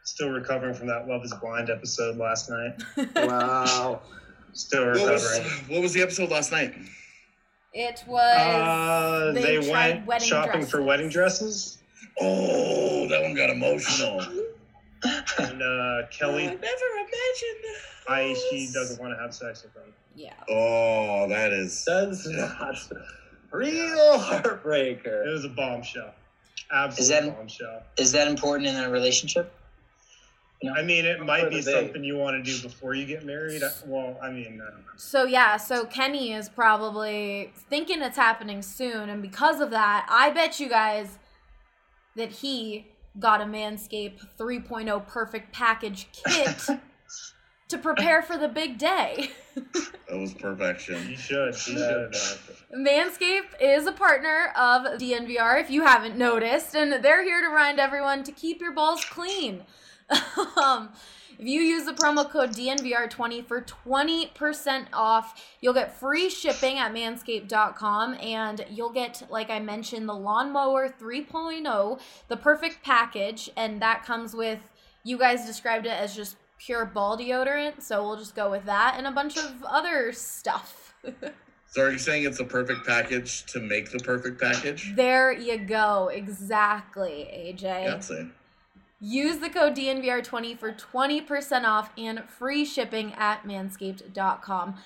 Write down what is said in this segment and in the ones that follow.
Still recovering from that Love is Blind episode last night. Wow. Still recovering. What was the episode last night? It was they went shopping for wedding dresses. Oh, that one got emotional. And Kelly, I never imagined. she doesn't want to have sex with him. Yeah. Oh, that's not real heartbreaker. It was a bombshell. Absolute bombshell. Is that important in a relationship? No. I mean, it might be something you want to do before you get married. Well, I mean, I don't know. So Kenny is probably thinking it's happening soon, and because of that, I bet you guys that he got a Manscaped 3.0 Perfect Package kit to prepare for the big day. That was perfection. You should. Manscaped is a partner of DNVR, if you haven't noticed, and they're here to remind everyone to keep your balls clean. If you use the promo code DNVR20 for 20% off, you'll get free shipping at manscaped.com, and you'll get, like I mentioned, the Lawnmower 3.0, the Perfect Package, and that comes with, you guys described it as just pure ball deodorant, so we'll just go with that, and a bunch of other stuff. So are you saying it's a perfect package to make the perfect package? There you go. Exactly, AJ. That's it. Use the code DNVR20 for 20% off and free shipping at manscaped.com.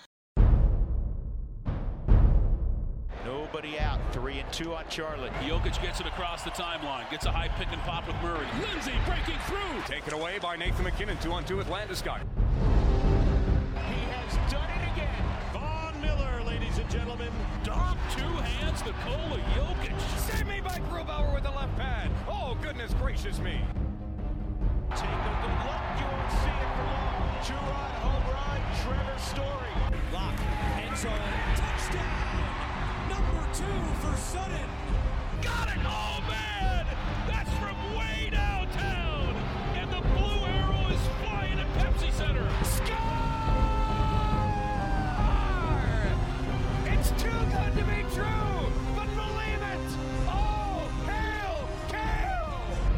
Nobody out. 3-2 on Charlotte. Jokic gets it across the timeline. Gets a high pick and pop with Murray. Lindsay breaking through. Taken away by Nathan McKinnon. 2-on-2 with Landeskog. He has done it again. Von Miller, ladies and gentlemen. Dom, two hands, Nikola Jokic. Save me by Grubauer with the left pad. Oh, goodness gracious me. Take a good look. You won't see it for long. Juwan home run. Trevor Story. Lock. End zone. Touchdown. Number 2 for Sutton. Got it. Oh, man. That's from way downtown. And the blue arrow is flying at Pepsi Center. Score! It's too good to be true. But believe it. Oh, hail, Kale!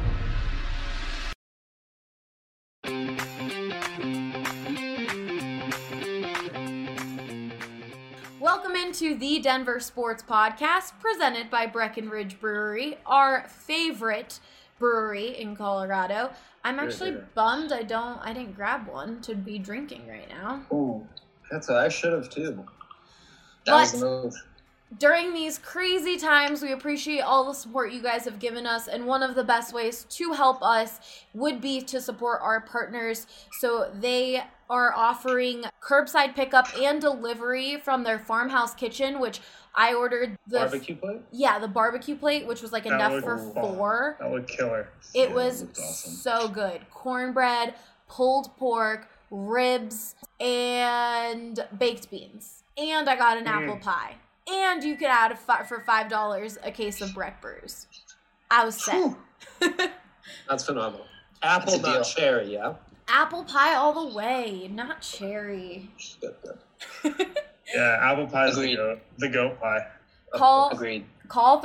Welcome into the Denver Sports Podcast, presented by Breckenridge Brewery, our favorite brewery in Colorado. I'm actually bummed I didn't grab one to be drinking right now. Ooh, I should have too. That was the move. During these crazy times, we appreciate all the support you guys have given us, and one of the best ways to help us would be to support our partners. So they are offering curbside pickup and delivery from their farmhouse kitchen, which I ordered the barbecue plate? Yeah, the barbecue plate, which was like enough for 4. That would kill her. It was awesome. So good. Cornbread, pulled pork, ribs, and baked beans. And I got an apple pie. And you could add for $5 a case of Breck Brews. I was set. That's phenomenal. Apple, not cherry, yeah? Apple pie all the way, not cherry. Good. Yeah, apple pie is the goat pie. Agreed. Call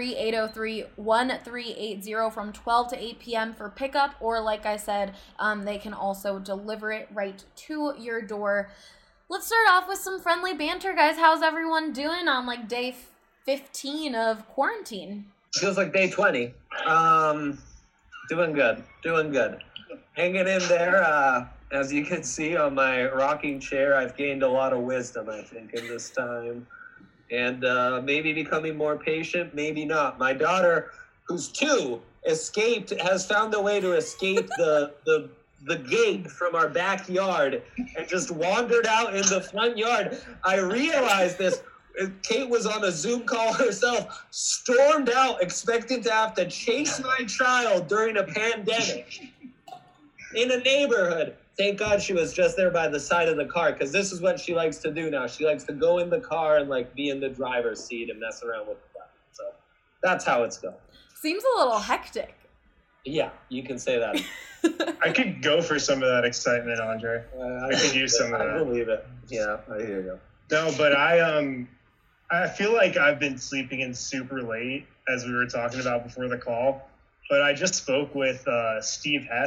303-803-1380 from 12 to 8 p.m. for pickup, or like I said, they can also deliver it right to your door. Let's start off with some friendly banter, guys. How's everyone doing on like day 15 of quarantine? Feels like day 20. Doing good. Hanging in there. As you can see on my rocking chair, I've gained a lot of wisdom, I think, in this time. And maybe becoming more patient, maybe not. My daughter, who's 2, has found a way to escape the gate from our backyard and just wandered out in the front yard. I realized this. Kate was on a Zoom call herself, stormed out expecting to have to chase my child during a pandemic in a neighborhood. Thank God she was just there by the side of the car, because this is what she likes to do now. She likes to go in the car and like be in the driver's seat and mess around with the car. So that's how it's going. Seems a little hectic. Yeah, you can say that. I could go for some of that excitement, Andre. I could use some of that. I believe it. Yeah, I hear you. No, but I feel like I've been sleeping in super late, as we were talking about before the call. But I just spoke with Steve Hess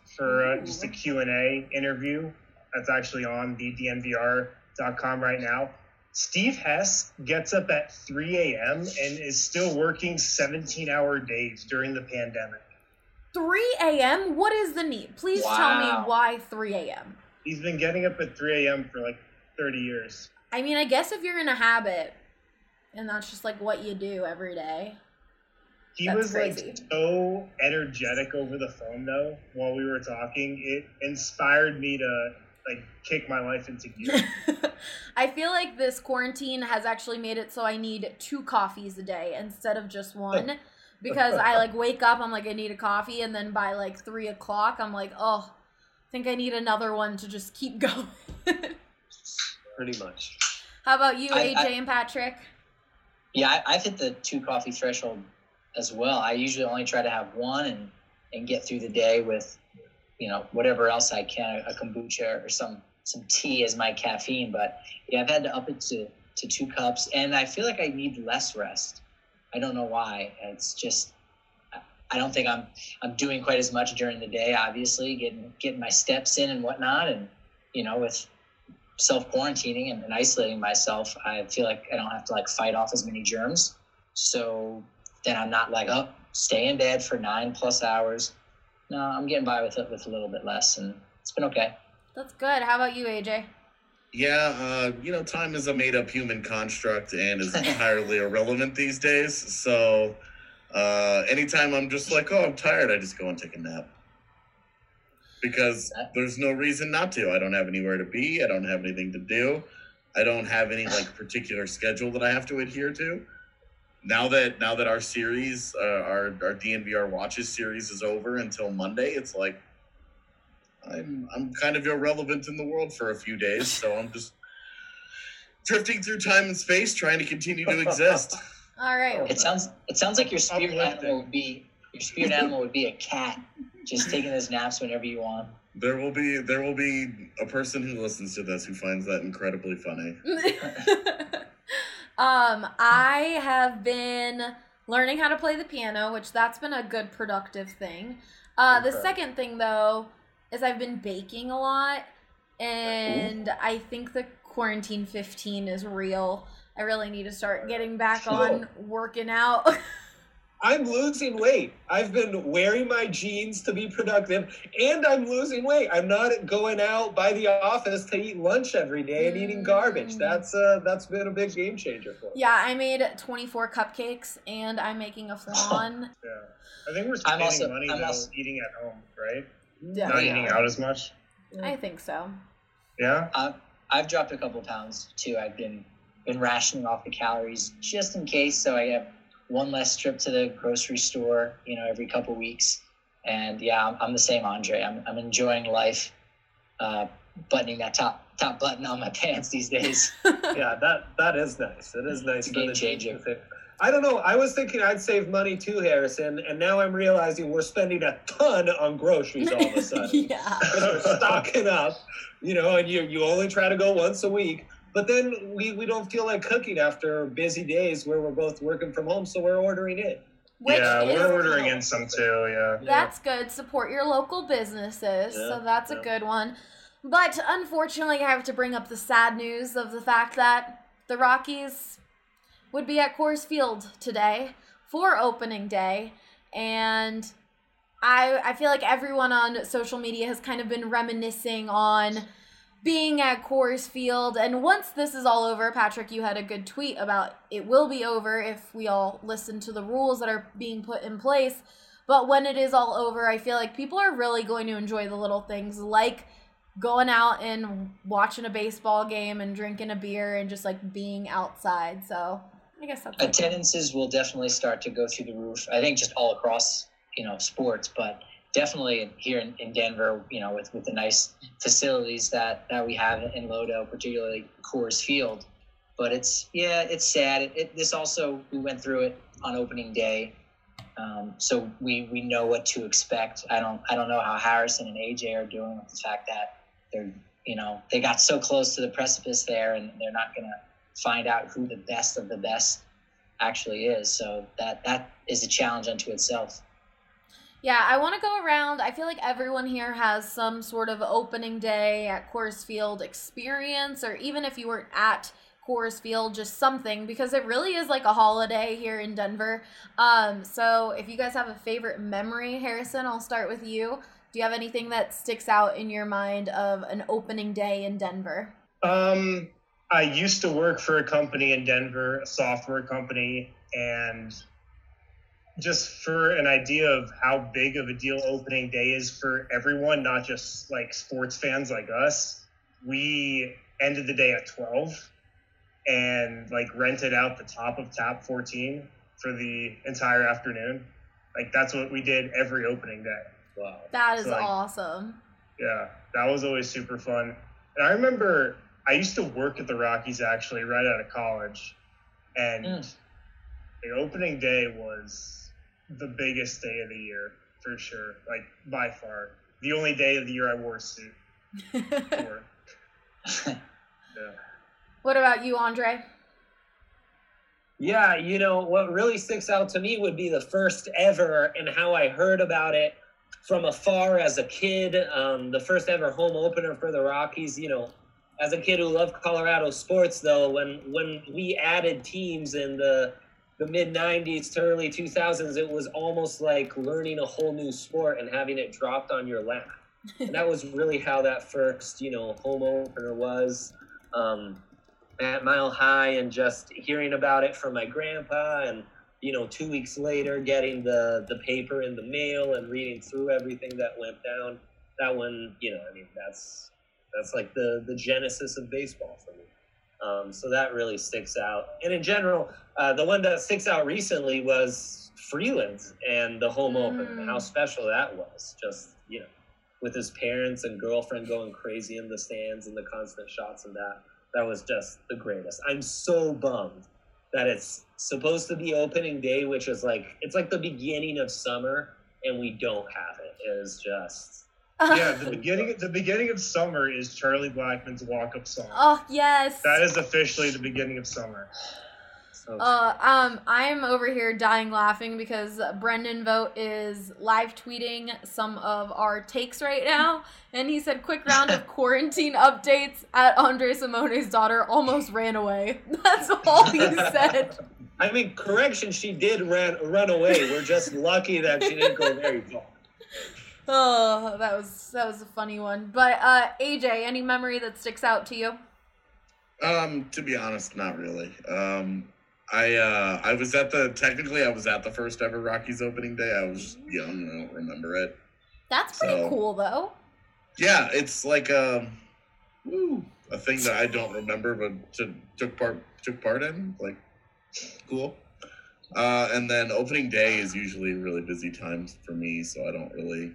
for just a Q&A interview that's actually on the DNVR.com right now. Steve Hess gets up at 3 a.m. and is still working 17-hour days during the pandemic. 3 a.m.? What is the need? Please tell me why 3 a.m. He's been getting up at 3 a.m. for like 30 years. I mean, I guess if you're in a habit and that's just like what you do every day. He was crazy. Like so energetic over the phone though while we were talking. It inspired me to like kick my life into gear. I feel like this quarantine has actually made it so I need 2 coffees a day instead of just 1. Because I like wake up, I'm like, I need a coffee, and then by like 3 o'clock, I'm like, oh, I think I need another one to just keep going. Pretty much. How about you, AJ and Patrick? Yeah, I've hit the 2 coffee threshold as well. I usually only try to have 1 and get through the day with, whatever else I can, a kombucha or some tea as my caffeine. But yeah, I've had to up it to 2 cups, and I feel like I need less rest. I don't know why. It's just, I don't think I'm doing quite as much during the day, obviously, getting my steps in and whatnot. And, with self-quarantining and isolating myself, I feel like I don't have to like fight off as many germs. So then I'm not like, stay in bed for 9+ hours. No, I'm getting by with a little bit less, and it's been okay. That's good. How about you, AJ? Yeah, time is a made-up human construct and is entirely irrelevant these days. So anytime I'm just like, I'm tired, I just go and take a nap. Because there's no reason not to. I don't have anywhere to be. I don't have anything to do. I don't have any like particular schedule that I have to adhere to. Now that our series, our DNVR Watches series is over until Monday, it's like I'm kind of irrelevant in the world for a few days, so I'm just drifting through time and space, trying to continue to exist. All right. It sounds like your spirit animal would be a cat, just taking those naps whenever you want. There will be a person who listens to this who finds that incredibly funny. I have been learning how to play the piano, which that's been a good productive thing. The second thing though is I've been baking a lot, and I think the quarantine 15 is real. I really need to start getting back on working out. I'm losing weight. I've been wearing my jeans to be productive, and I'm losing weight. I'm not going out by the office to eat lunch every day and eating garbage. That's been a big game changer for me. Yeah, I made 24 cupcakes, and I'm making a flan. Yeah, I think we're spending money eating at home, right? Yeah, not eating out as much. I think so. Yeah. I've dropped a couple pounds too. I've been rationing off the calories just in case, so I have one less trip to the grocery store, every couple weeks. And yeah, I'm the same, Andre. I'm enjoying life, buttoning that top button on my pants these days. Yeah, that is nice. It is nice. It's a game changer. I don't know. I was thinking I'd save money too, Harrison, and now I'm realizing we're spending a ton on groceries all of a sudden. Yeah. Because we're stocking up, and you only try to go once a week. But then we don't feel like cooking after busy days where we're both working from home, so we're ordering in. We're ordering in some too, yeah. That's good. Support your local businesses, so that's a good one. But unfortunately, I have to bring up the sad news of the fact that the Rockies would be at Coors Field today for opening day, and I feel like everyone on social media has kind of been reminiscing on being at Coors Field. And once this is all over, Patrick, you had a good tweet about it will be over if we all listen to the rules that are being put in place. But when it is all over, I feel like people are really going to enjoy the little things like going out and watching a baseball game and drinking a beer and just like being outside. So I guess that's attendances will definitely start to go through the roof. I think just all across, sports, but definitely here in Denver, with the nice facilities that we have in Lodo, particularly Coors Field. But it's sad. This also, we went through it on opening day. So we know what to expect. I don't know how Harrison and AJ are doing with the fact that they're, they got so close to the precipice there, and they're not going to find out who the best of the best actually is. So that is a challenge unto itself. Yeah, I want to go around. I feel like everyone here has some sort of opening day at Coors Field experience, or even if you weren't at Coors Field, just something, because it really is like a holiday here in Denver. So if you guys have a favorite memory, Harrison, I'll start with you. Do you have anything that sticks out in your mind of an opening day in Denver? I used to work for a company in Denver, a software company, and just for an idea of how big of a deal opening day is for everyone, not just like sports fans like us, we ended the day at 12 and like rented out the top of Tap 14 for the entire afternoon. Like that's what we did every opening day. Wow. That is So, like, awesome. Yeah, that was always super fun. And I remember I used to work at the Rockies actually right out of college, and the opening day was the biggest day of the year for sure, like by far. The only day of the year I wore a suit. For. Yeah. What about you, Andre? Yeah, what really sticks out to me would be the first ever and how I heard about it from afar as a kid. The first ever home opener for the Rockies. As a kid who loved Colorado sports, though, when we added teams in the mid-'90s to early 2000s, it was almost like learning a whole new sport and having it dropped on your lap. And that was really how that first, home opener was at Mile High, and just hearing about it from my grandpa, and, 2 weeks later getting the paper in the mail and reading through everything that went down. That one, that's like the genesis of baseball for me. So that really sticks out. And in general, the one that sticks out recently was Freeland and the home open, how special that was. Just, with his parents and girlfriend going crazy in the stands and the constant shots of that. That was just the greatest. I'm so bummed that it's supposed to be opening day, which is it's like the beginning of summer, and we don't have it. It is just... Yeah, the beginning of summer is Charlie Blackmon's walk-up song. Oh, yes. That is officially the beginning of summer. I'm over here dying laughing because Brendan Vogt is live tweeting some of our takes right now, and he said, "Quick round of quarantine updates at Andre Simone's daughter almost ran away." That's all he said. I mean, correction, she did run away. We're just lucky that she didn't go very far. Oh, that was a funny one. But AJ, any memory that sticks out to you? To be honest, not really. I was at the first ever Rockies opening day. I was young and I don't remember it. That's pretty cool, though. Yeah, it's like a thing that I don't remember, but took part in. Like, cool. And then opening day is usually really busy times for me, so I don't really,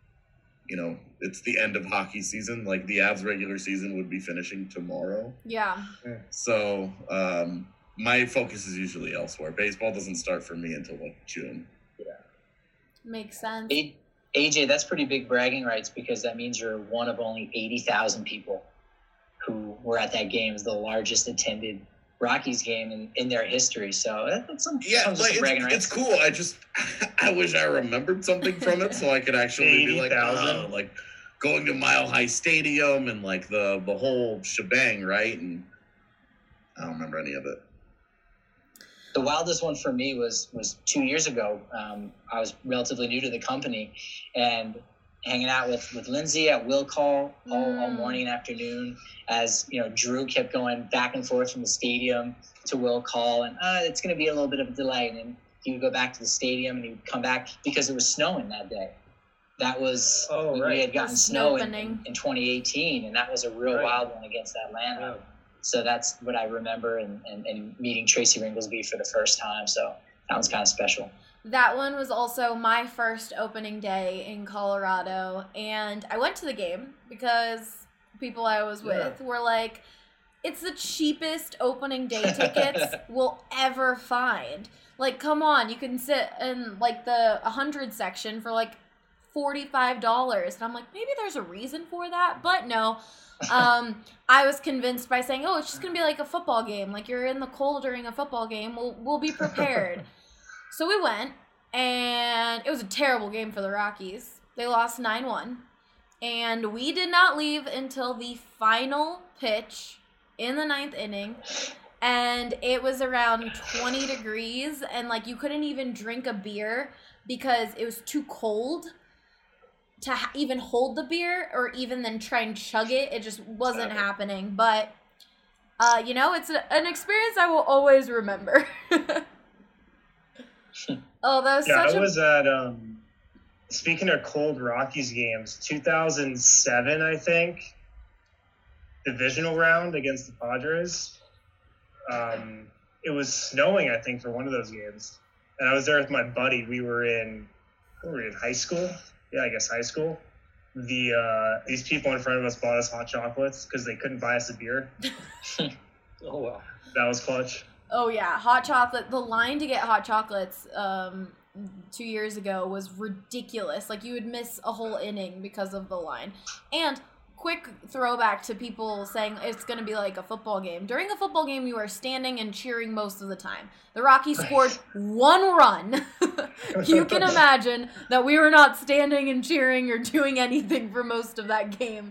it's the end of hockey season. Like the Avs regular season would be finishing tomorrow. Yeah. So my focus is usually elsewhere. Baseball doesn't start for me until like June. Yeah. Makes sense. AJ, that's pretty big bragging rights, because that means you're one of only 80,000 people who were at that game. It's the largest attended Rockies game in their history. So that's some bragging rights. It's cool. I wish I remembered something from it so I could actually be like, like going to Mile High Stadium and like the whole shebang, right? And I don't remember any of it. The wildest one for me was 2 years ago. I was relatively new to the company, and hanging out with Lindsay at Will Call all morning and afternoon, as Drew kept going back and forth from the stadium to Will Call, and it's going to be a little bit of a delay. And then he would go back to the stadium, and he would come back because it was snowing that day. That was we had gotten snow in 2018, and that was a real wild one against Atlanta. Yeah. So that's what I remember, and meeting Tracy Ringlesby for the first time. So that was kind of special. That one was also my first opening day in Colorado, and I went to the game because people I was with were like, it's the cheapest opening day tickets we'll ever find. Like, come on, you can sit in like the 100 section for like $45. And I'm like, maybe there's a reason for that, but no. I was convinced by saying, oh, it's just going to be like a football game. Like, you're in the cold during a football game. We'll be prepared. So we went, And it was a terrible game for the Rockies. They lost 9-1. And we did not leave until the final pitch in the 9th inning. And it was around 20 degrees. And, like, you couldn't even drink a beer because it was too cold to even hold the beer or even then try and chug it. It just wasn't happening. But, you know, it's an experience I will always remember. Oh, that was I was at, speaking of cold Rockies games, 2007, I think, divisional round against the Padres. It was snowing, I think, for one of those games. And I was there with my buddy. We were in high school. Yeah, I guess high school. These people in front of us bought us hot chocolates because they couldn't buy us a beer. Oh, wow. That was clutch. Oh, yeah. Hot chocolate. The line to get hot chocolates 2 years ago was ridiculous. Like, you would miss a whole inning because of the line. And quick throwback to people saying it's going to be like a football game. During a football game, you are standing and cheering most of the time. The Rockies scored 1 run. You can imagine that we were not standing and cheering or doing anything for most of that game.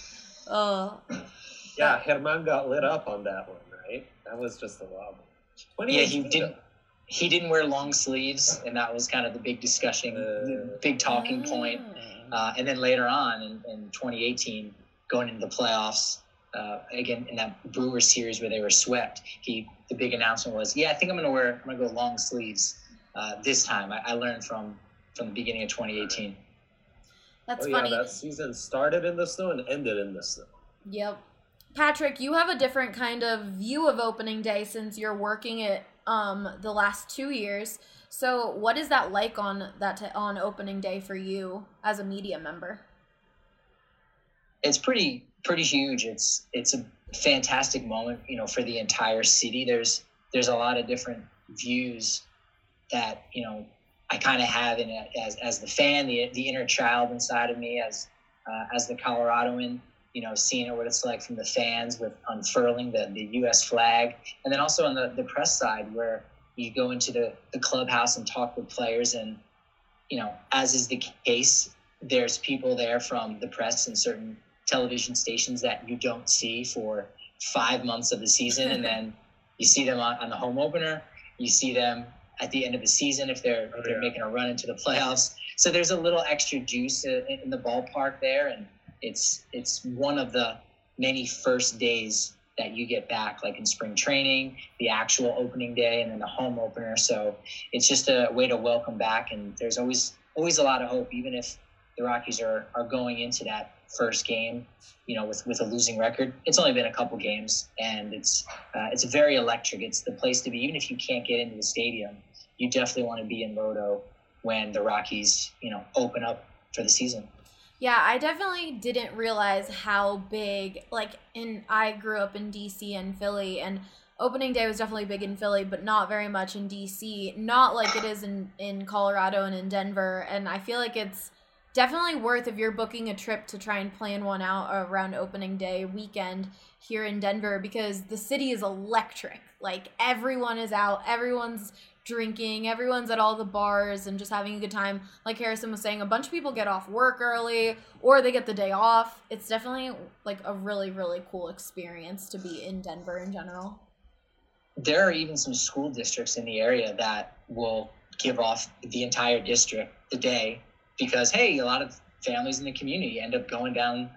Yeah, Herman got lit up on that one, right? That was just a wild one. Yeah, he didn't wear long sleeves, and that was kind of the big discussion, big talking point. And then later on in 2018, going into the playoffs, again in that Brewers series where they were swept, the big announcement was, I think I'm gonna go long sleeves this time. I learned from the beginning of 2018. That's funny. Yeah, that season started in the snow and ended in the snow. Yep. Patrick, you have a different kind of view of opening day since you're working it the last 2 years. So what is that like on opening day for you as a media member? It's pretty huge. It's a fantastic moment, for the entire city. There's a lot of different views that, I kind of have in it as the fan, the inner child inside of me as the Coloradoan, seeing what it's like from the fans with unfurling the U.S. flag. And then also on the press side where you go into the clubhouse and talk with players and, as is the case, there's people there from the press and certain television stations that you don't see for 5 months of the season. And then you see them on the home opener. You see them at the end of the season if they're making a run into the playoffs. So there's a little extra juice in the ballpark there. And it's one of the many first days that you get back, like in spring training, the actual opening day, and then the home opener. So it's just a way to welcome back. And there's always a lot of hope, even if the Rockies are going into that first game, with a losing record. It's only been a couple games, and it's very electric. It's the place to be. Even if you can't get into the stadium, you definitely want to be in Modo when the Rockies, open up for the season. Yeah, I definitely didn't realize how big, I grew up in DC and Philly, and opening day was definitely big in Philly, but not very much in DC, not like it is in Colorado and in Denver, and I feel like it's definitely worth, if you're booking a trip, to try and plan one out around opening day weekend here in Denver, because the city is electric. Like, everyone is out, everyone's drinking, everyone's at all the bars and just having a good time. Like Harrison was saying, a bunch of people get off work early or they get the day off. It's definitely like a really, really cool experience to be in Denver in general. There are even some school districts in the area that will give off the entire district the day because, hey, a lot of families in the community end up going down,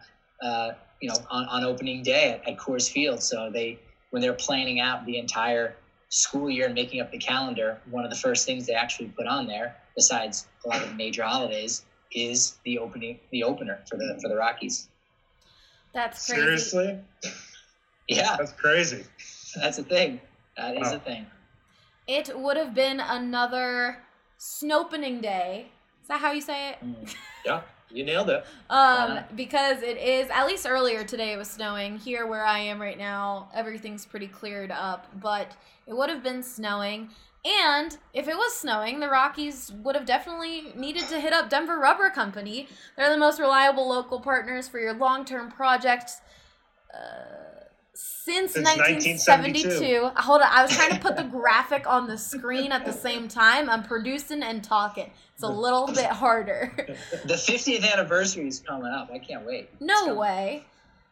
on opening day at Coors Field. So when they're planning out the entire school year and making up the calendar, one of the first things they actually put on there, besides a lot of the major holidays, is the opener for the Rockies. That's crazy. Seriously? Yeah. That's crazy. That's a thing. That is a thing. It would have been another Snopening Day. Is that how you say it? Yeah, you nailed it. Because it is, at least earlier today it was snowing. Here where I am right now, everything's pretty cleared up, but it would have been snowing. And if it was snowing, the Rockies would have definitely needed to hit up Denver Rubber Company. They're the most reliable local partners for your long-term projects. Since 1972. 1972. Hold on, I was trying to put the graphic on the screen at the same time. I'm producing and talking. It's a little bit harder. The 50th anniversary is coming up. I can't wait. No way.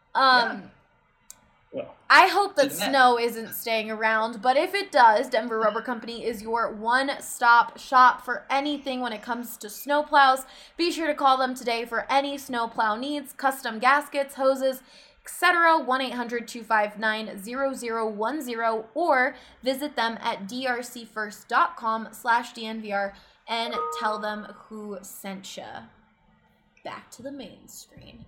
Well, I hope that Didn't snow isn't staying around, but if it does, Denver Rubber Company is your one-stop shop for anything when it comes to snowplows. Be sure to call them today for any snowplow needs, custom gaskets, hoses, etc. 1-800-259-0010 or visit them at drcfirst.com/DNVR and tell them who sent you. Back to the main screen.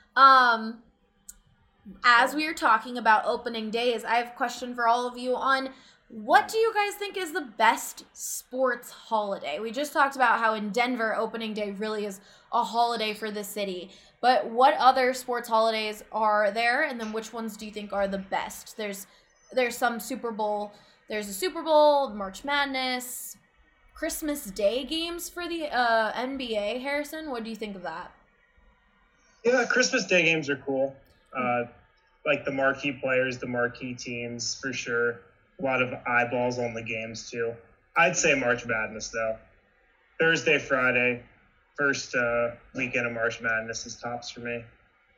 As we are talking about opening days, I have a question for all of you on what do you guys think is the best sports holiday? We just talked about how in Denver, opening day really is a holiday for the city. But what other sports holidays are there? And then which ones do you think are the best? There's some Super Bowl. There's a Super Bowl, March Madness, Christmas Day games for the NBA. Harrison, what do you think of that? yeah, Christmas Day games are cool. Like the marquee players, the marquee teams, for sure. A lot of eyeballs on the games, too. I'd say March Madness, though. Thursday, Friday, first weekend of March Madness is tops for me.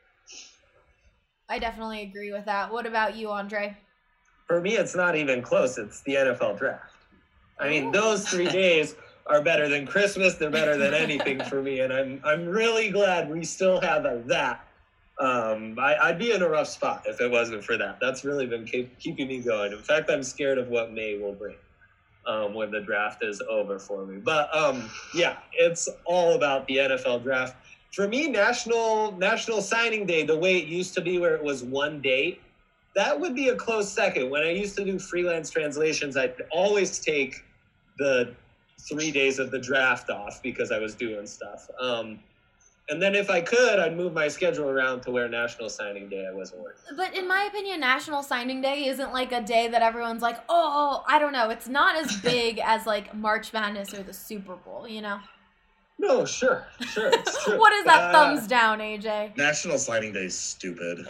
I definitely agree with that. What about you, Andre? For me, it's not even close. It's the NFL draft. I mean, those 3 days are better than Christmas. They're better than anything for me, and I'm really glad we still have that. I'd be in a rough spot if it wasn't for that. That's really been keeping me going. In fact, I'm scared of what May will bring when the draft is over for me. But yeah, it's all about the NFL draft. For me, National Signing Day, the way it used to be where it was one date, that would be a close second. When I used to do freelance translations, I'd always take the 3 days of the draft off because I was doing stuff. And then if I could, I'd move my schedule around to where National Signing Day I wasn't working. But in my opinion, National Signing Day isn't like a day that everyone's like, oh, I don't know. It's not as big as like March Madness or the Super Bowl, you know? No, sure, it's true. What is that thumbs down, AJ? National Signing Day is stupid.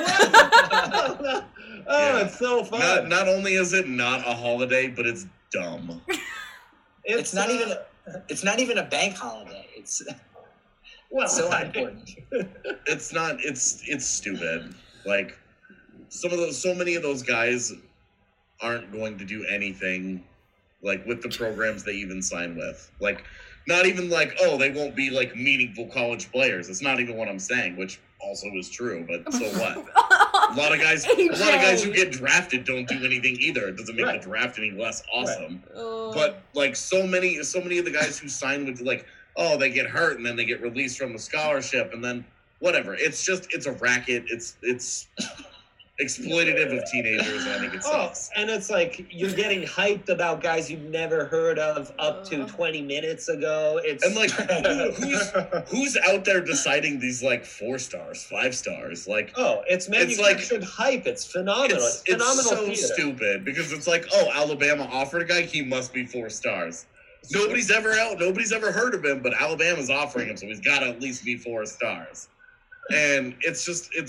It's so fun. Not only is it not a holiday, but it's dumb. It's not even a bank holiday. It's so important. It's not. It's stupid. Like so many of those guys aren't going to do anything like with the programs they even sign with. Like not even like, oh, they won't be like meaningful college players. It's not even what I'm saying, which also is true, but so what? A lot of guys who get drafted don't do anything either. It doesn't make the draft any less awesome. Right. But like so many of the guys who sign with like, oh, they get hurt and then they get released from the scholarship and then whatever. It's a racket. It's exploitative of teenagers, and I think it sucks. And it's like you're getting hyped about guys you've never heard of up to 20 minutes ago. And like who's out there deciding these like 4 stars, 5 stars? Like it's manufactured hype. It's phenomenal. It's phenomenal. It's so theater. Stupid because it's like, oh, Alabama offered a guy, he must be 4 stars. Nobody's ever heard of him, but Alabama's offering him, so he's got to at least be 4 stars. And it's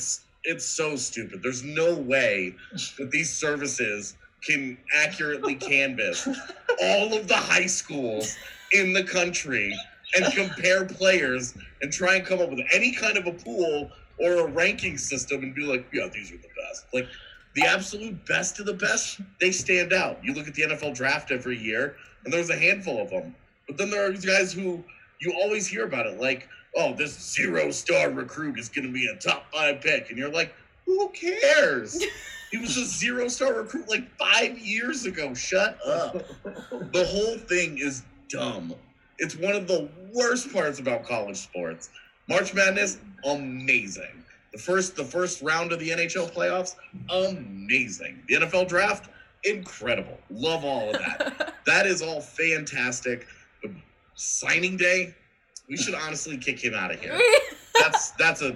so stupid. There's no way that these services can accurately canvass all of the high schools in the country and compare players and try and come up with any kind of a pool or a ranking system and be like, yeah, these are the best. Like, the absolute best of the best, they stand out. You look at the NFL draft every year, and there's a handful of them. But then there are these guys who you always hear about it, like, oh, this 0-star recruit is going to be a top 5 pick. And you're like, who cares? He was a 0-star recruit like 5 years ago. Shut up. The whole thing is dumb. It's one of the worst parts about college sports. March Madness, amazing. The first round of the NHL playoffs, amazing. The NFL draft, incredible. Love all of that. That is all fantastic. But signing day, we should honestly kick him out of here. That's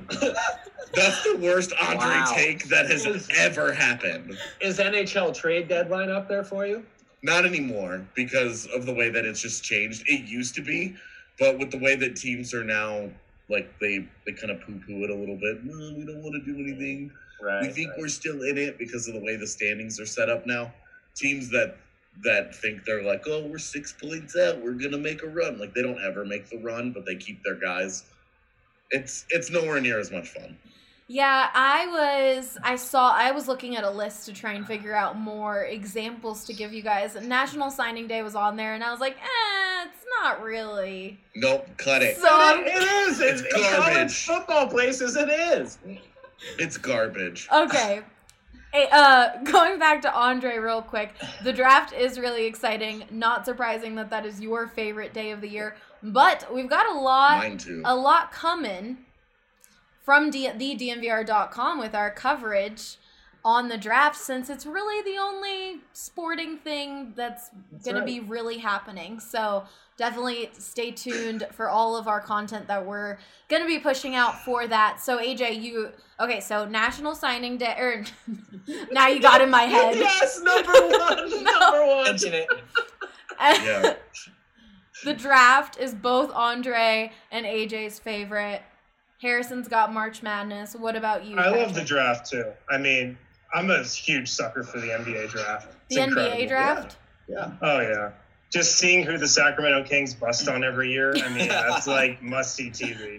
the worst Andre take that has ever happened. Is NHL trade deadline up there for you? Not anymore because of the way that it's just changed. It used to be, but with the way that teams are now like they kind of poo-poo it a little bit. No, we don't want to do anything. Right. We think we're still in it because of the way the standings are set up now. Teams that think they're like, oh, we're 6 points out, we're gonna make a run. Like, they don't ever make the run, but they keep their guys. It's nowhere near as much fun. Yeah, I was looking at a list to try and figure out more examples to give you guys. National Signing Day was on there, and I was like, it's not really. Nope, cut it. So It is. It's In college garbage. football places, it is. It's garbage. Okay. Hey, going back to Andre real quick, the draft is really exciting. Not surprising that is your favorite day of the year, but we've got Mine too. a lot coming from the DNVR.com with our coverage on the draft, since it's really the only sporting thing that's going to be really happening. So definitely stay tuned for all of our content that we're going to be pushing out for that. So AJ, so National Signing Day, or now you got in my head. Yes, number one. Number one. Mention it. Yeah. The draft is both Andre and AJ's favorite. Harrison's got March Madness. What about you? I love Patrick? the draft too. I mean, I'm a huge sucker for the NBA draft. It's The incredible. NBA draft? Yeah. Oh yeah. Just seeing who the Sacramento Kings bust on every year, I mean, that's like must-see TV.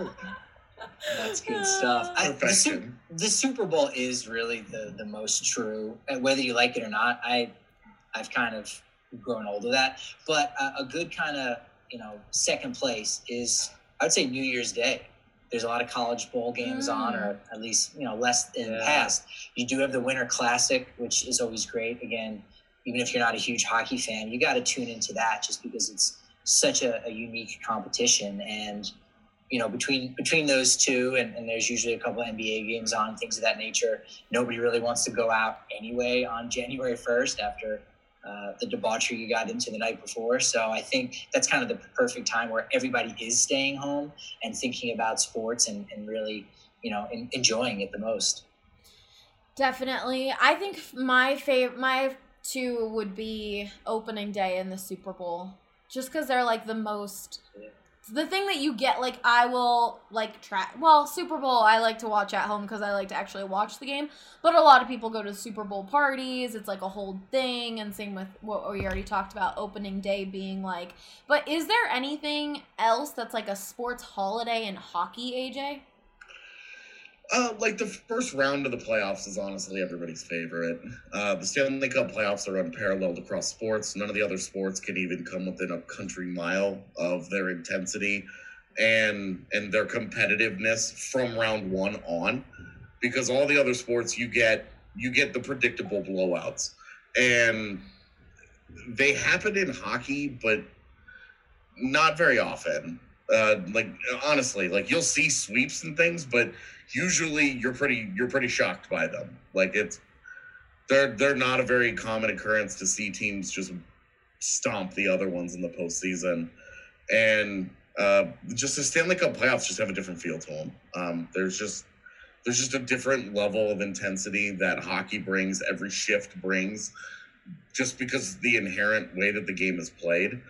That's good stuff. Perfection. The Super Bowl is really the most true, whether you like it or not. I've kind of grown old of that, but a good kind of second place is, I would say, New Year's Day. There's a lot of college bowl games on, or at least less in the past. You do have the Winter Classic, which is always great. Again, even if you're not a huge hockey fan, you got to tune into that just because it's such a unique competition. And between those two, and there's usually a couple of NBA games on, things of that nature. Nobody really wants to go out anyway on January 1st after the debauchery you got into the night before. So I think that's kind of the perfect time where everybody is staying home and thinking about sports and really, enjoying it the most. Definitely. I think my two would be opening day and the Super Bowl. Just because they're like the most... The thing that you get, like, I will, like, Super Bowl, I like to watch at home because I like to actually watch the game. But a lot of people go to Super Bowl parties. It's, like, a whole thing. And same with what we already talked about, opening day being, like... But is there anything else that's, like, a sports holiday in hockey, AJ? Like the first round of the playoffs is honestly everybody's favorite. The Stanley Cup playoffs are unparalleled across sports. None of the other sports can even come within a country mile of their intensity and their competitiveness from round one on, because all the other sports you get the predictable blowouts, and they happen in hockey, but not very often. Like honestly, like you'll see sweeps and things, but usually you're pretty shocked by them. Like they're not a very common occurrence to see teams just stomp the other ones in the postseason. And just the Stanley Cup playoffs just have a different feel to them. There's just a different level of intensity that hockey brings, every shift brings, just because of the inherent way that the game is played.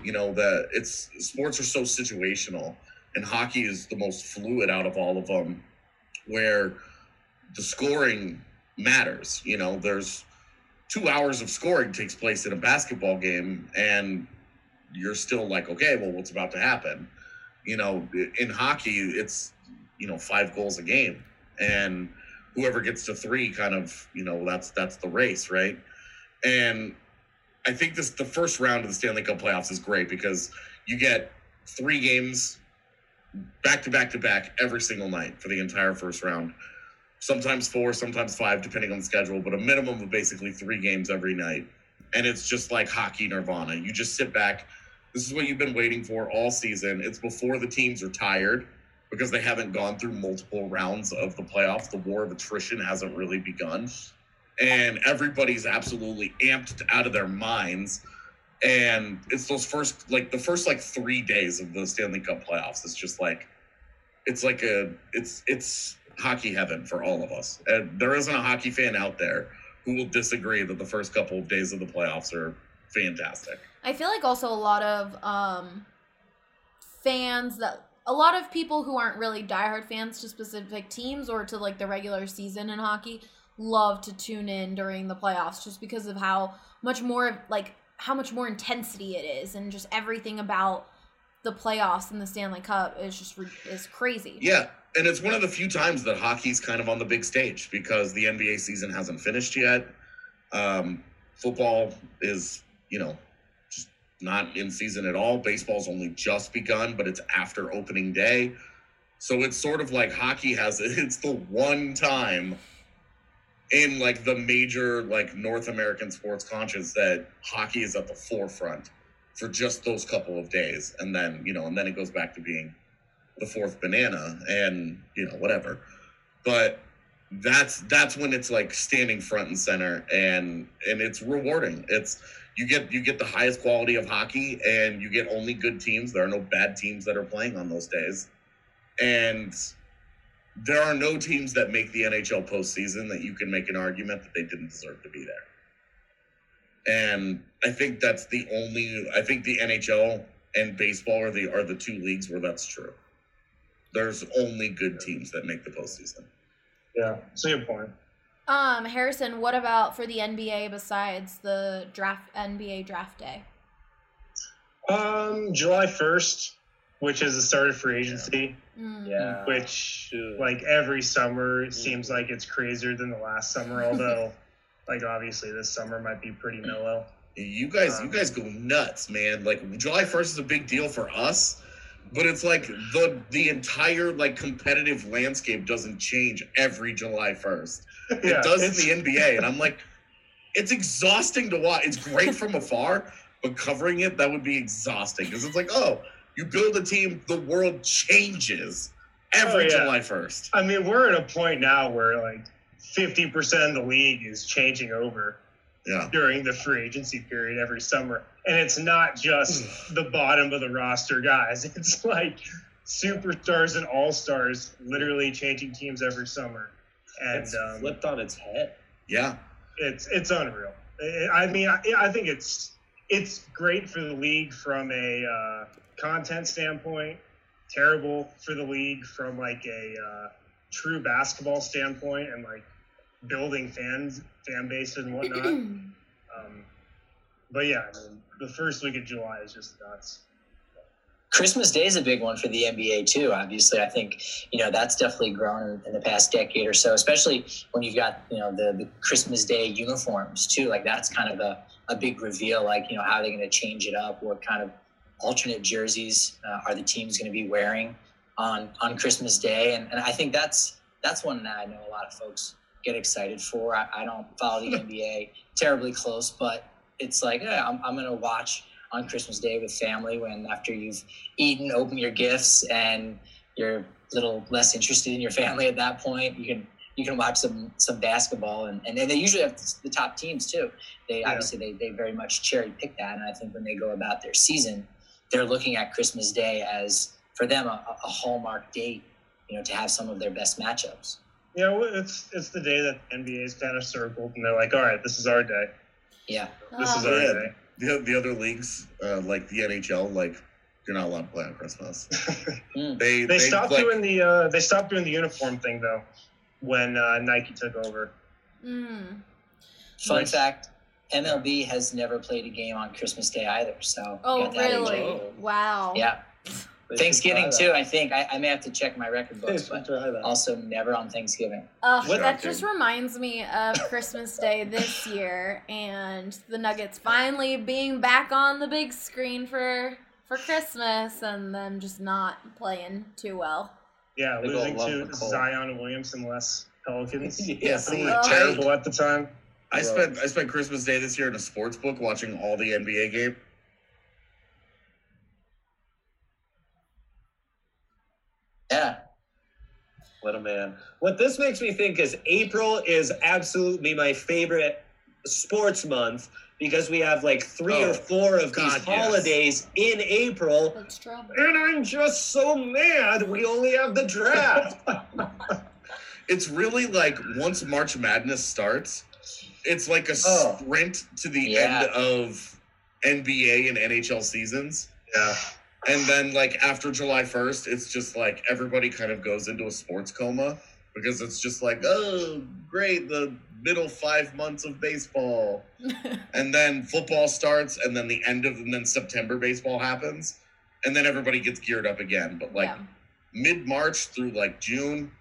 Sports are so situational, and hockey is the most fluid out of all of them, where the scoring matters. There's 2 hours of scoring takes place in a basketball game, and you're still like, okay, well, what's about to happen? In hockey, it's 5 goals a game, and whoever gets to 3 kind of, that's the race, right? And I think the first round of the Stanley Cup playoffs is great because you get 3 games back to back to back every single night for the entire first round. Sometimes 4, sometimes 5, depending on the schedule, but a minimum of basically 3 games every night. And it's just like hockey nirvana. You just sit back. This is what you've been waiting for all season. It's before the teams are tired because they haven't gone through multiple rounds of the playoffs. The war of attrition hasn't really begun. And everybody's absolutely amped out of their minds. And it's the first 3 days of the Stanley Cup playoffs. It's just like, it's hockey heaven for all of us. And there isn't a hockey fan out there who will disagree that the first couple of days of the playoffs are fantastic. I feel like also a lot of fans that a lot of people who aren't really diehard fans to specific teams or to like the regular season in hockey love to tune in during the playoffs just because of how much more intensity it is, and just everything about the playoffs and the Stanley Cup is crazy. Yeah, and it's one of the few times that hockey's kind of on the big stage because the NBA season hasn't finished yet. Football is, just not in season at all. Baseball's only just begun, but it's after opening day. So it's sort of like hockey it's the one time in like the major like North American sports conscience that hockey is at the forefront for just those couple of days. And then, and then it goes back to being the fourth banana and, whatever. But that's when it's like standing front and center, and it's rewarding. It's you get the highest quality of hockey, and you get only good teams. There are no bad teams that are playing on those days. And there are no teams that make the NHL postseason that you can make an argument that they didn't deserve to be there. And I think I think the NHL and baseball are the two leagues where that's true. There's only good teams that make the postseason. Yeah, that's a good point. Harrison, what about for the NBA besides the NBA draft day? July 1st, which is the start of free agency. Yeah. Which, like, every summer, it seems like it's crazier than the last summer, although, like, obviously this summer might be pretty mellow. You guys go nuts, man. Like, July 1st is a big deal for us, but it's like the entire, like, competitive landscape doesn't change every July 1st. It does in the NBA, and I'm like, it's exhausting to watch. It's great from afar, but covering it, that would be exhausting, because it's like, oh, you build a team, the world changes every July 1st. I mean, we're at a point now where, like, 50% of the league is changing over during the free agency period every summer. And it's not just the bottom of the roster guys. It's like superstars and all-stars literally changing teams every summer. And it's flipped on its head. Yeah. It's unreal. I mean, I think it's great for the league from a content standpoint, terrible for the league from like a true basketball standpoint and like building fan base and whatnot. But yeah, I mean, the first week of July is just nuts. Christmas Day is a big one for the NBA too. Obviously, I think that's definitely grown in the past decade or so, especially when you've got the Christmas Day uniforms too. Like that's kind of a big reveal. Like how they're going to change it up. What kind of alternate jerseys are the teams going to be wearing on Christmas Day? And I think that's one that I know a lot of folks get excited for. I don't follow the NBA terribly close, but it's like I'm going to watch on Christmas Day with family when after you've eaten, open your gifts, and you're a little less interested in your family at that point. You can watch some basketball, and they usually have the top teams too. Obviously they very much cherry pick that, and I think when they go about their season, they're looking at Christmas Day as for them a hallmark date, to have some of their best matchups. Yeah, well, it's the day that NBA's kind of circled, and they're like, all right, this is our day. Yeah, this is our day. The other leagues, like the NHL, like you're not allowed to play on Christmas. They stopped doing the uniform thing though when Nike took over. Fun fact: MLB has never played a game on Christmas Day either. So really? Wow. Yeah. Thanksgiving too. I think I may have to check my record books, but also never on Thanksgiving. That just reminds me of Christmas Day this year and the Nuggets finally being back on the big screen for Christmas, and them just not playing too well. Yeah, losing to Zion Williamson less Pelicans. Yeah, terrible at the time. I spent Christmas Day this year in a sports book watching all the NBA games. Yeah. What a man. What this makes me think is April is absolutely my favorite sports month because we have like 3 or 4 of these holidays in April. And I'm just so mad we only have the draft. It's really like once March Madness starts, it's like a sprint to the end of NBA and NHL seasons. Yeah. And then, like, after July 1st, it's just like everybody kind of goes into a sports coma because it's just like, oh, great, the middle 5 months of baseball. And then football starts, and then and then September baseball happens. And then everybody gets geared up again. But, like, mid-March through, like, June,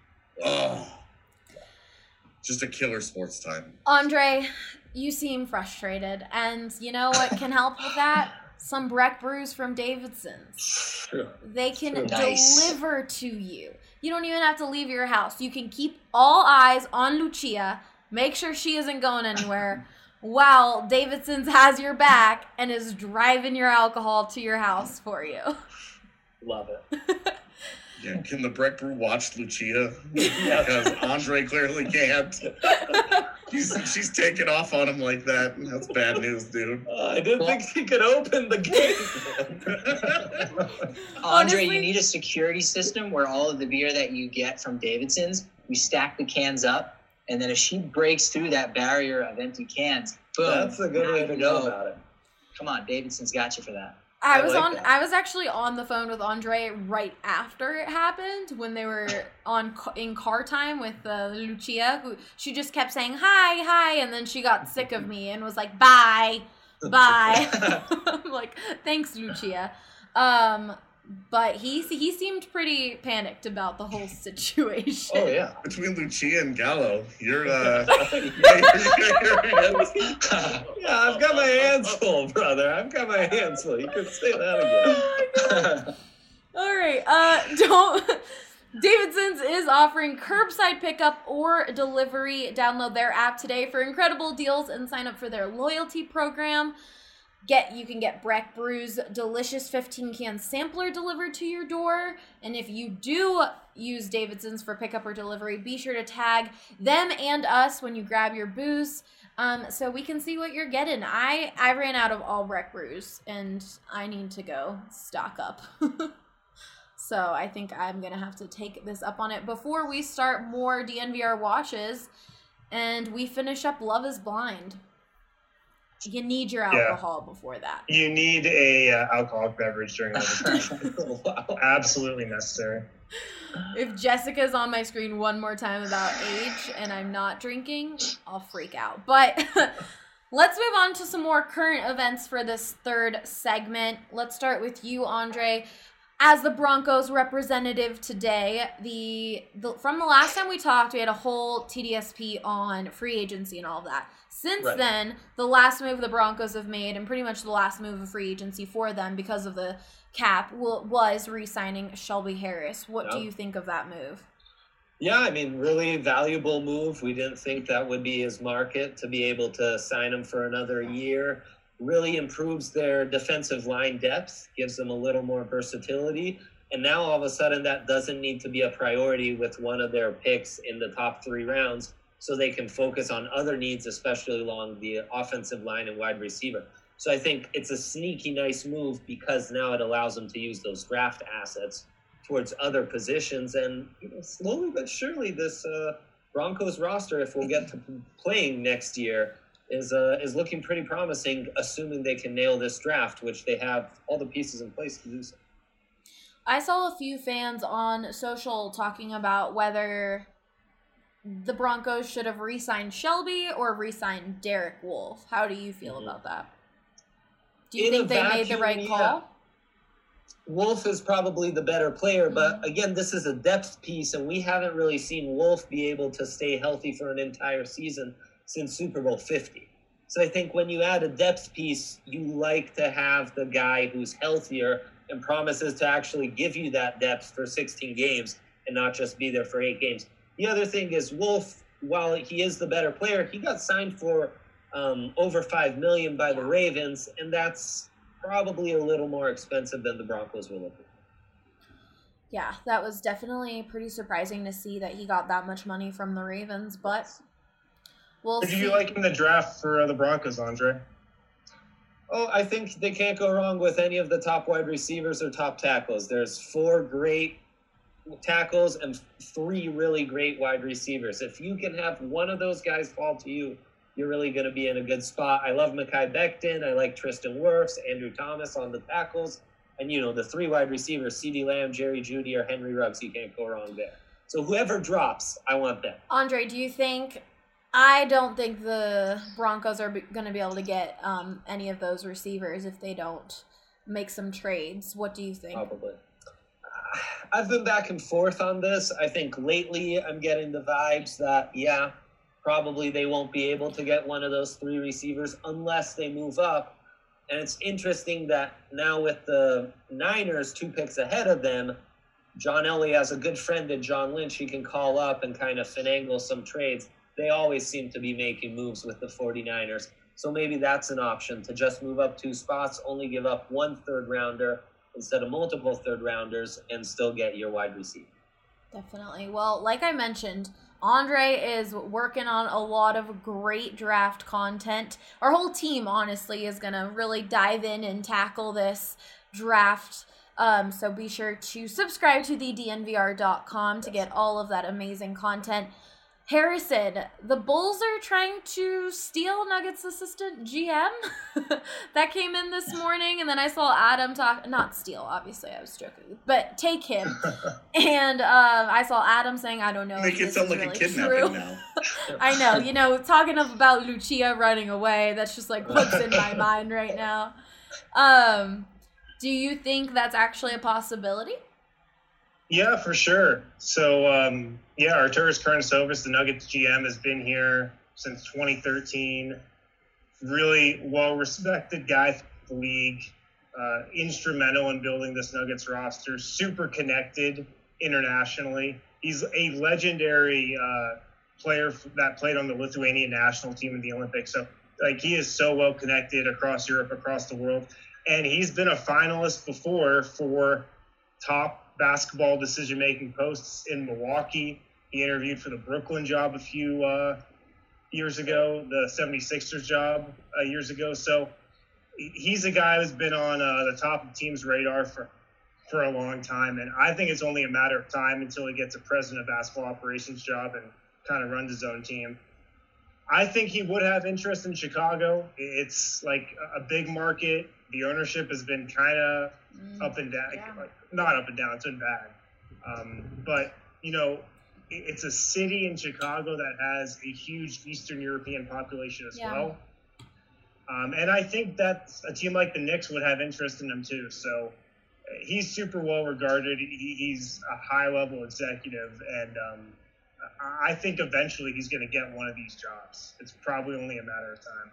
just a killer sports time. Andre, you seem frustrated. And you know what can help with that? Some Breck brews from Davidson's. They can deliver to you. You don't even have to leave your house. You can keep all eyes on Lucia, make sure she isn't going anywhere, while Davidson's has your back and is driving your alcohol to your house for you. Love it. Yeah, can the Breck Brew watch Lucia? Because Andre clearly can't. She's taking off on him like that. That's bad news, dude. I didn't think he could open the gate. Andre, Honestly, you need a security system where all of the beer that you get from Davidson's, you stack the cans up, and then if she breaks through that barrier of empty cans, boom. That's a good way to go about it. Come on, Davidson's got you for that. I was actually on the phone with Andre right after it happened when they were in car time with Lucia. She just kept saying hi, and then she got sick of me and was like, bye. I'm like, thanks, Lucia. But he seemed pretty panicked about the whole situation. Oh yeah, between Lucia and Gallo, you're yeah, I've got my hands full, brother. I've got my hands full. You can say that again. All right, Davidson's is offering curbside pickup or delivery. Download their app today for incredible deals and sign up for their loyalty program. You can get Breck Brew's delicious 15-can sampler delivered to your door. And if you do use Davidson's for pickup or delivery, be sure to tag them and us when you grab your booze, so we can see what you're getting. I ran out of all Breck Brews, and I need to go stock up. So I think I'm going to have to take this up on it before we start more DNVR watches and we finish up Love is Blind. You need your alcohol before that. You need a alcoholic beverage during overtime. Wow. Absolutely necessary. If Jessica's on my screen one more time about age and I'm not drinking, I'll freak out. But let's move on to some more current events for this third segment. Let's start with you, Andre. As the Broncos representative today, from the last time we talked, we had a whole TDSP on free agency and all of that. Since then, the last move the Broncos have made, and pretty much the last move of free agency for them because of the cap, was re-signing Shelby Harris. What do you think of that move? Yeah, I mean, really valuable move. We didn't think that would be his market to be able to sign him for another year. Really improves their defensive line depth, gives them a little more versatility. And now all of a sudden that doesn't need to be a priority with one of their picks in the top 3 rounds, so they can focus on other needs, especially along the offensive line and wide receiver. So I think it's a sneaky nice move because now it allows them to use those draft assets towards other positions. And slowly but surely this Broncos roster, if we'll get to playing next year, is looking pretty promising, assuming they can nail this draft, which they have all the pieces in place to do so. I saw a few fans on social talking about whether the Broncos should have re-signed Shelby or re-signed Derek Wolfe. How do you feel about that? Do you think they made the right call? Wolfe is probably the better player, but again, this is a depth piece, and we haven't really seen Wolfe be able to stay healthy for an entire season since Super Bowl 50. So I think when you add a depth piece, you like to have the guy who's healthier and promises to actually give you that depth for 16 games and not just be there for 8 games. The other thing is Wolfe, while he is the better player, he got signed for over $5 million by the Ravens, and that's probably a little more expensive than the Broncos were looking. Yeah, that was definitely pretty surprising to see that he got that much money from the Ravens, but we'll see. Did you like in the draft for the Broncos, Andre? Oh, I think they can't go wrong with any of the top wide receivers or top tackles. There's 4 great tackles and 3 really great wide receivers. If you can have one of those guys fall to you, you're really going to be in a good spot. I love Mekhi Becton. I like Tristan Wirfs, Andrew Thomas on the tackles. And, the 3 wide receivers, CeeDee Lamb, Jerry Jeudy, or Henry Ruggs, you can't go wrong there. So whoever drops, I want them. Andre, do you think... I don't think the Broncos are going to be able to get any of those receivers if they don't make some trades. What do you think? Probably. I've been back and forth on this. I think lately I'm getting the vibes that, probably they won't be able to get one of those 3 receivers unless they move up. And it's interesting that now with the Niners 2 picks ahead of them, John Elway has a good friend in John Lynch he can call up and kind of finagle some trades. They always seem to be making moves with the 49ers. So maybe that's an option to just move up 2 spots, only give up 1 third-rounder instead of multiple third-rounders, and still get your wide receiver. Definitely. Well, like I mentioned, Andre is working on a lot of great draft content. Our whole team, honestly, is going to really dive in and tackle this draft. So be sure to subscribe to thednvr.com to get all of that amazing content. Harrison, the Bulls are trying to steal Nuggets assistant GM. That came in this morning, and then I saw Adam not steal, obviously, I was joking, but take him. And I saw Adam saying, I don't know. Make it sound like really a kidnapping true. now. I know, talking about Lucia running away, that's just like what's in my mind right now. Do you think that's actually a possibility? Yeah, for sure. So, Arturas Karnisovas, the Nuggets GM, has been here since 2013. Really well-respected guy for the league. Instrumental in building this Nuggets roster. Super connected internationally. He's a legendary player that played on the Lithuanian national team in the Olympics. So, he is so well-connected across Europe, across the world. And he's been a finalist before for top basketball decision-making posts in Milwaukee. He interviewed for the Brooklyn job a few years ago, the 76ers job years ago. So he's a guy who's been on the top of team's radar for a long time. And I think it's only a matter of time until he gets a president of basketball operations job and kind of runs his own team. I think he would have interest in Chicago. It's like a big market. The ownership has been kind of up and down. Yeah. Not up and down, it's been bad. But, it's a city in Chicago that has a huge Eastern European population as well. And I think that a team like the Knicks would have interest in him too. So he's super well regarded. He's a high-level executive, and I think eventually he's going to get one of these jobs. It's probably only a matter of time.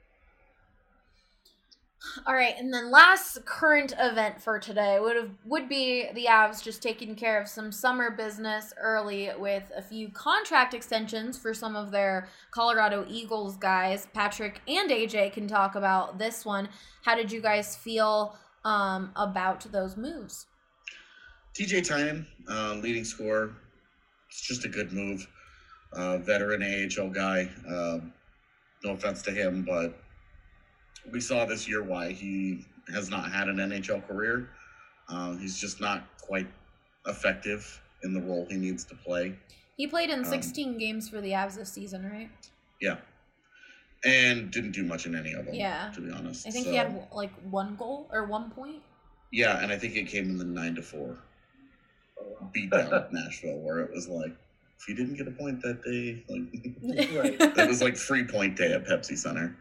All right, and then last current event for today would be the Avs just taking care of some summer business early with a few contract extensions for some of their Colorado Eagles guys. Patrick and AJ can talk about this one. How did you guys feel about those moves? TJ Tynan, leading scorer. It's just a good move. Veteran AHL guy. No offense to him, but we saw this year why he has not had an NHL career. He's just not quite effective in the role he needs to play. He played in 16 games for the Avs this season, right? Yeah. And didn't do much in any of them, to be honest. I think he had like 1 goal or 1 point. Yeah, and I think it came in the 9-4 beatdown at Nashville, where it was like, if you didn't get a point that day, Right. it was like free point day at Pepsi Center.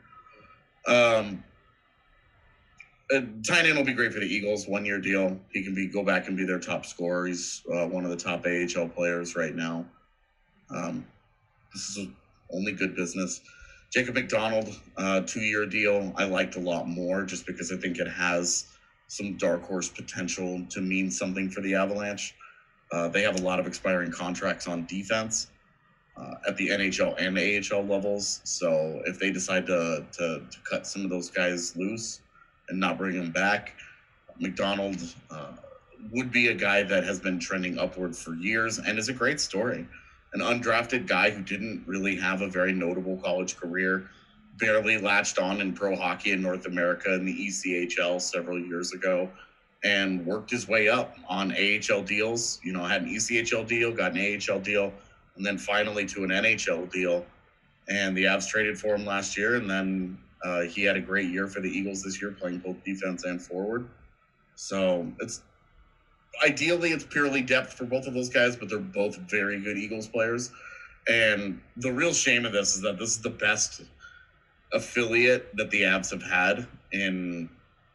Tynan will be great for the Eagles. 1-year deal. He can go back and be their top scorer. He's one of the top AHL players right now. This is only good business. Jacob McDonald, 2-year deal. I liked a lot more just because I think it has some dark horse potential to mean something for the Avalanche. They have a lot of expiring contracts on defense at the NHL and AHL levels. So if they decide to cut some of those guys loose and not bring them back, McDonald would be a guy that has been trending upward for years and is a great story. An undrafted guy who didn't really have a very notable college career, barely latched on in pro hockey in North America in the ECHL several years ago, and worked his way up on AHL deals. Had an ECHL deal, got an AHL deal, and then finally to an NHL deal. And the Avs traded for him last year, and then he had a great year for the Eagles this year, playing both defense and forward. So ideally it's purely depth for both of those guys, but they're both very good Eagles players. And the real shame of this is that this is the best affiliate that the Avs have had in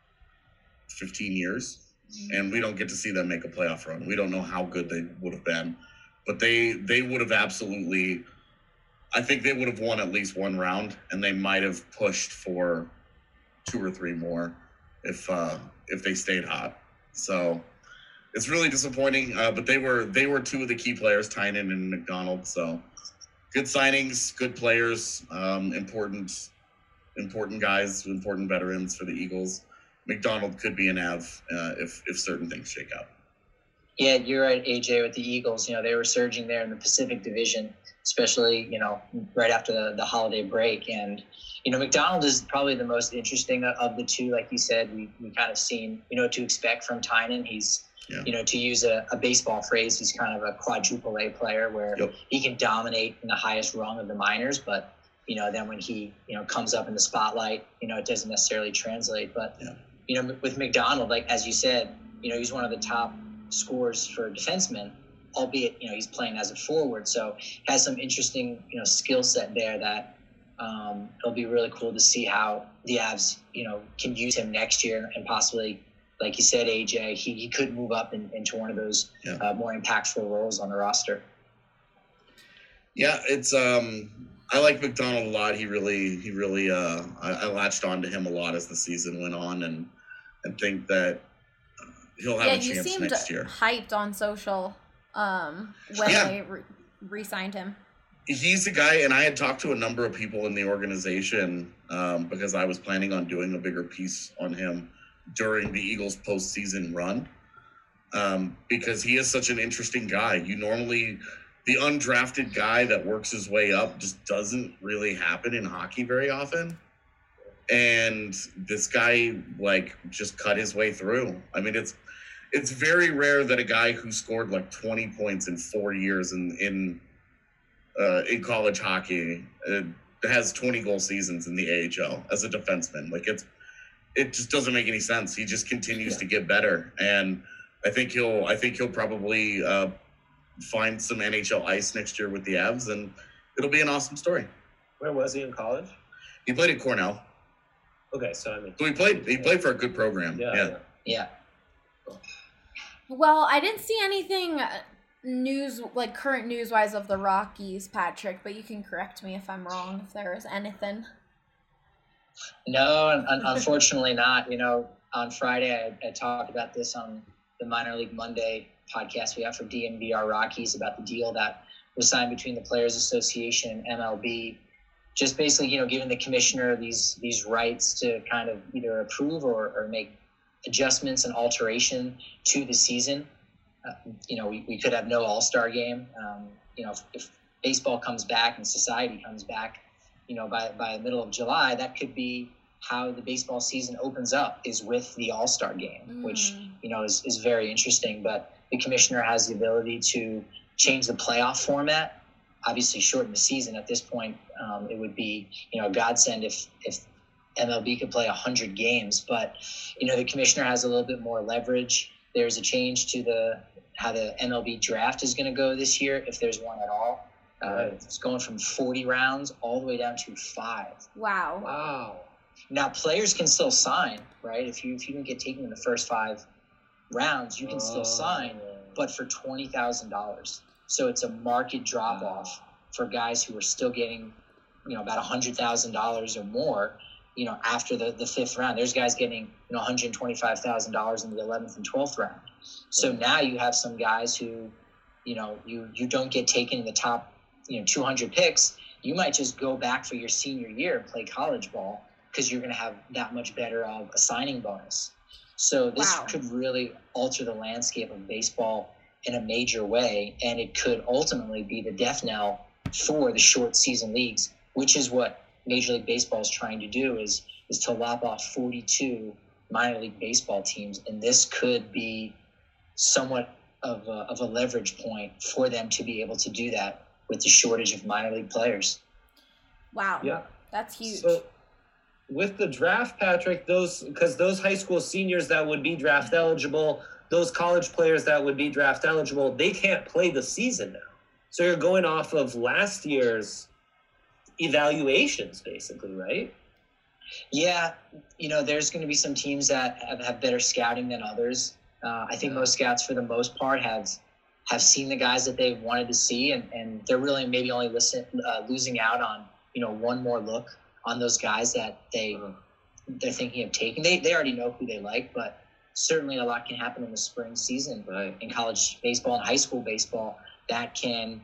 15 years. And we don't get to see them make a playoff run. We don't know how good they would have been. But they would have absolutely, I think they would have won at least one round, and they might have pushed for 2 or 3 more if they stayed hot. So it's really disappointing. But they were 2 of the key players, Tynan and McDonald. So good signings, good players, important guys, important veterans for the Eagles. McDonald could be an Av if certain things shake out. Yeah, you're right, AJ, with the Eagles. They were surging there in the Pacific Division, especially, right after the holiday break. And, McDonald is probably the most interesting of the two. Like you said, we kind of seen, to expect from Tynan. He's, to use a baseball phrase, he's kind of a quadruple A player where he can dominate in the highest rung of the minors. But, then when he, comes up in the spotlight, it doesn't necessarily translate. But, with McDonald, like, as you said, he's one of the top scorers for defensemen, albeit he's playing as a forward, so has some interesting skill set there that it'll be really cool to see how the Avs can use him next year, and possibly, like you said, AJ, he could move up into one of those more impactful roles on the roster. Yeah, it's I like McDonald a lot. He really I latched on to him a lot as the season went on, and think that he'll have a chance next year. Hyped on social when they re-signed him. He's a guy, and I had talked to a number of people in the organization because I was planning on doing a bigger piece on him during the Eagles postseason run because he is such an interesting guy. The undrafted guy that works his way up just doesn't really happen in hockey very often. And this guy, just cut his way through. I mean, it's very rare that a guy who scored 20 points in 4 years in college hockey has 20-goal seasons in the AHL as a defenseman. It just doesn't make any sense. He just continues to get better, and I think he'll probably find some NHL ice next year with the Avs, and it'll be an awesome story. Where was he in college? He played at Cornell. Okay, so he played for a good program. Yeah. Well, I didn't see anything current news-wise of the Rockies, Patrick, but you can correct me if I'm wrong, if there is anything. No, unfortunately not. On Friday, I talked about this on the Minor League Monday podcast we have for DNVR Rockies about the deal that was signed between the Players Association and MLB. Just basically, giving the commissioner these rights to kind of either approve or make adjustments and alteration to the season. We could have no All-Star game. If baseball comes back and society comes back, by the middle of July, that could be how the baseball season opens up, is with the All-Star game, which, is very interesting. But the commissioner has the ability to change the playoff format, obviously shorten the season. At this point, it would be, a godsend if MLB could play 100 games. But, the commissioner has a little bit more leverage. There's a change to how the MLB draft is going to go this year, if there's one at all. It's going from 40 rounds all the way down to 5. Wow. Now, players can still sign, right? If you don't get taken in the first 5 rounds, you can still sign, but for $20,000. So it's a market drop-off for guys who are still getting, about $100,000 or more, after the 5th round. There's guys getting, $125,000 in the 11th and 12th round. So now you have some guys who, you don't get taken in the top, 200 picks. You might just go back for your senior year and play college ball because you're going to have that much better of a signing bonus. So this could really alter the landscape of baseball in a major way, and it could ultimately be the death knell for the short season leagues, which is what Major League Baseball is trying to do, is to lop off 42 minor league baseball teams, and this could be somewhat of a leverage point for them to be able to do that with the shortage of minor league players. Wow. Yeah. That's huge. So with the draft, Patrick, those high school seniors that would be draft eligible, those college players that would be draft eligible, they can't play the season now. So you're going off of last year's evaluations, basically, right? Yeah, there's going to be some teams that have better scouting than others. I think most scouts, for the most part, have seen the guys that they wanted to see, and they're really maybe only losing out on one more look on those guys that they're thinking of taking. They already know who they like, but certainly a lot can happen in the spring season in college baseball and high school baseball that can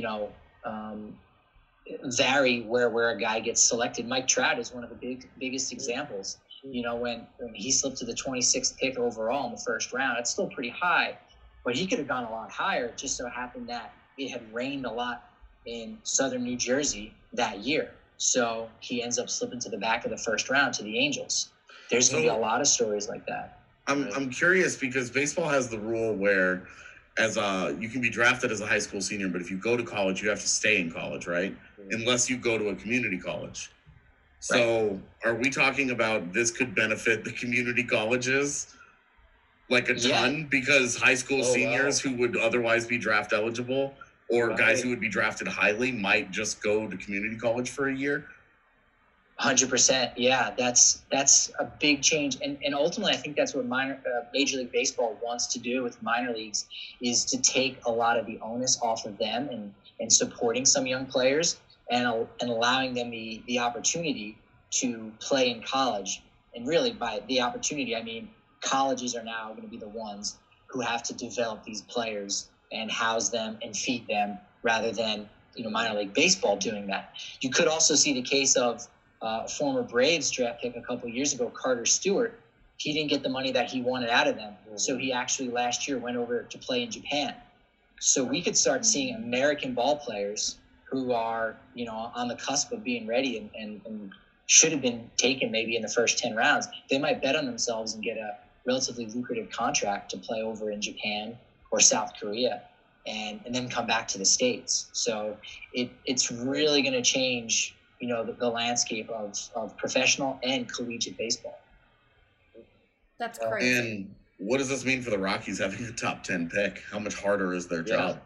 vary where a guy gets selected. Mike Trout is one of the biggest examples. When he slipped to the 26th pick overall in the first round, it's still pretty high, but he could have gone a lot higher. It just so happened that it had rained a lot in southern New Jersey that year. So he ends up slipping to the back of the first round to the Angels. There's going to be a lot of stories like that. I'm curious because baseball has the rule where you can be drafted as a high school senior, but if you go to college, you have to stay in college, right? Unless you go to a community college. So Are we talking about this could benefit the community colleges like a ton because high school seniors who would otherwise be draft eligible or guys who would be drafted highly might just go to community college for a year? 100%. Yeah, that's a big change. And ultimately, I think that's what Major League Baseball wants to do with minor leagues is to take a lot of the onus off of them and supporting some young players and allowing them the opportunity to play in college. And really, by the opportunity, I mean colleges are now going to be the ones who have to develop these players and house them and feed them rather than minor league baseball doing that. You could also see the case of former Braves draft pick a couple of years ago, Carter Stewart. He didn't get the money that he wanted out of them. So he actually last year went over to play in Japan. So we could start seeing American ball players who are, on the cusp of being ready and should have been taken maybe in the first 10 rounds. They might bet on themselves and get a relatively lucrative contract to play over in Japan or South Korea and then come back to the States. So it's really going to change the landscape of professional and collegiate baseball. That's crazy. And what does this mean for the Rockies having a top 10 pick? How much harder is their job?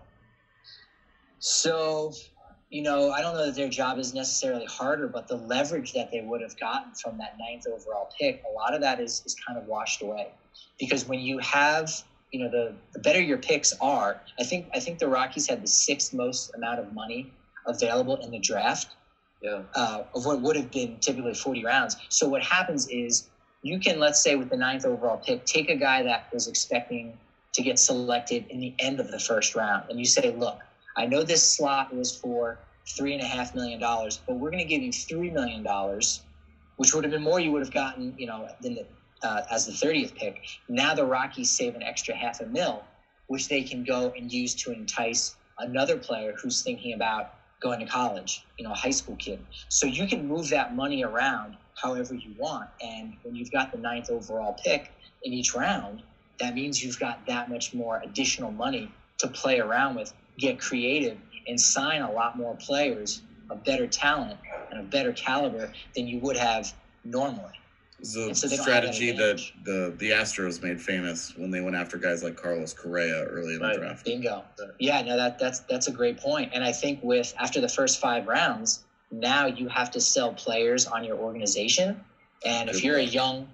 So, I don't know that their job is necessarily harder, but the leverage that they would have gotten from that 9th overall pick, a lot of that is kind of washed away. Because when you have, the better your picks are, I think the Rockies had the 6th most amount of money available in the draft. Of what would have been typically 40 rounds. So what happens is you can, let's say with the 9th overall pick, take a guy that was expecting to get selected in the end of the first round. And you say, look, I know this slot was for $3.5 million, but we're going to give you $3 million, which would have been more you would have gotten, than as the 30th pick. Now the Rockies save an extra $500,000, which they can go and use to entice another player who's thinking about going to college, a high school kid. So you can move that money around however you want. And when you've got the 9th overall pick in each round, that means you've got that much more additional money to play around with, get creative, and sign a lot more players of better talent and of better caliber than you would have normally. It's a strategy that the Astros made famous when they went after guys like Carlos Correa early in the draft. Bingo. Yeah, no, that's a great point. And I think after the first 5 rounds, now you have to sell players on your organization. And if you're a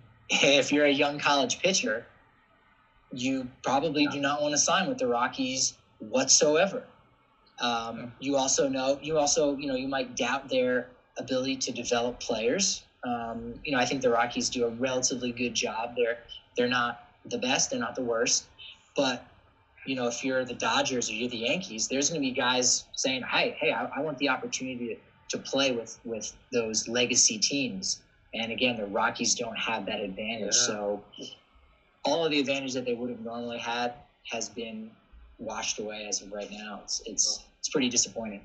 young college pitcher, you probably do not want to sign with the Rockies whatsoever. You might doubt their ability to develop players. I think the Rockies do a relatively good job. They're not the best, they're not the worst, but if you're the Dodgers or you're the Yankees, there's going to be guys saying, hey, I want the opportunity to play with those legacy teams. And again, the Rockies don't have that advantage. Yeah. So all of the advantage that they would have normally had has been washed away as of right now. It's pretty disappointing.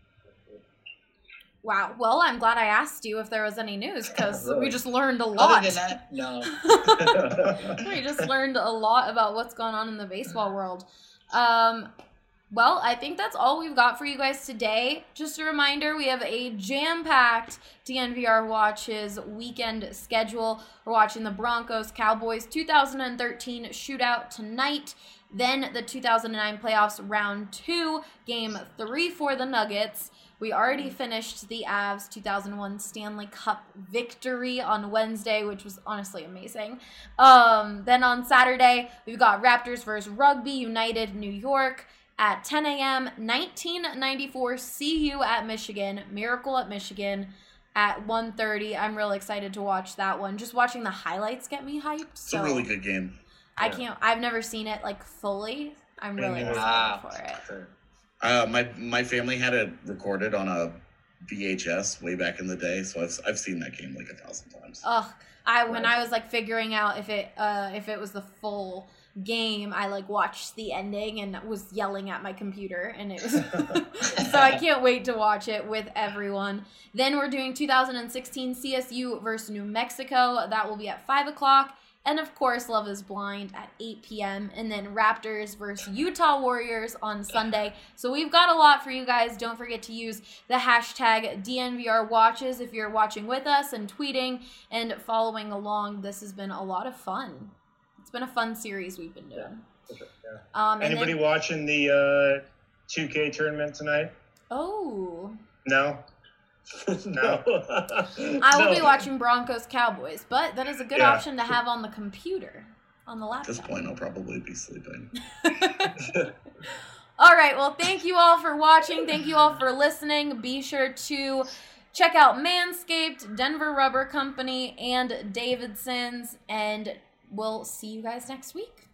Wow. Well, I'm glad I asked you if there was any news because we just learned a lot. Other than that, no. We just learned a lot about what's going on in the baseball world. Well, I think that's all we've got for you guys today. Just a reminder, we have a jam-packed DNVR Watches weekend schedule. We're watching the Broncos-Cowboys 2013 shootout tonight. Then the 2009 playoffs round 2, game 3 for the Nuggets. We already finished the Avs 2001 Stanley Cup victory on Wednesday, which was honestly amazing. Then on Saturday, we've got Raptors versus Rugby United New York at 10 a.m. 1994 CU at Michigan, Miracle at Michigan at 1:30. I'm really excited to watch that one. Just watching the highlights get me hyped. It's a really good game. I've never seen it like fully. I'm really excited for it. Sure. My family had it recorded on a VHS way back in the day, so I've seen that game like 1,000 times. When I was like figuring out if it was the full game, I like watched the ending and was yelling at my computer, and it was so I can't wait to watch it with everyone. Then we're doing 2016 CSU versus New Mexico. That will be at 5 o'clock. And of course, Love is Blind at 8 p.m. And then Raptors versus Utah Warriors on Sunday. So we've got a lot for you guys. Don't forget to use the hashtag DNVR Watches if you're watching with us and tweeting and following along. This has been a lot of fun. It's been a fun series we've been doing. Yeah. Anybody watching the 2K tournament tonight? Oh. No? No. I will be watching Broncos Cowboys, but that is a good option to have on the computer, on the laptop. At this point, I'll probably be sleeping. All right, well, thank you all for watching. Thank you all for listening. Be sure to check out Manscaped, Denver Rubber Company, and Davidson's, and we'll see you guys next week.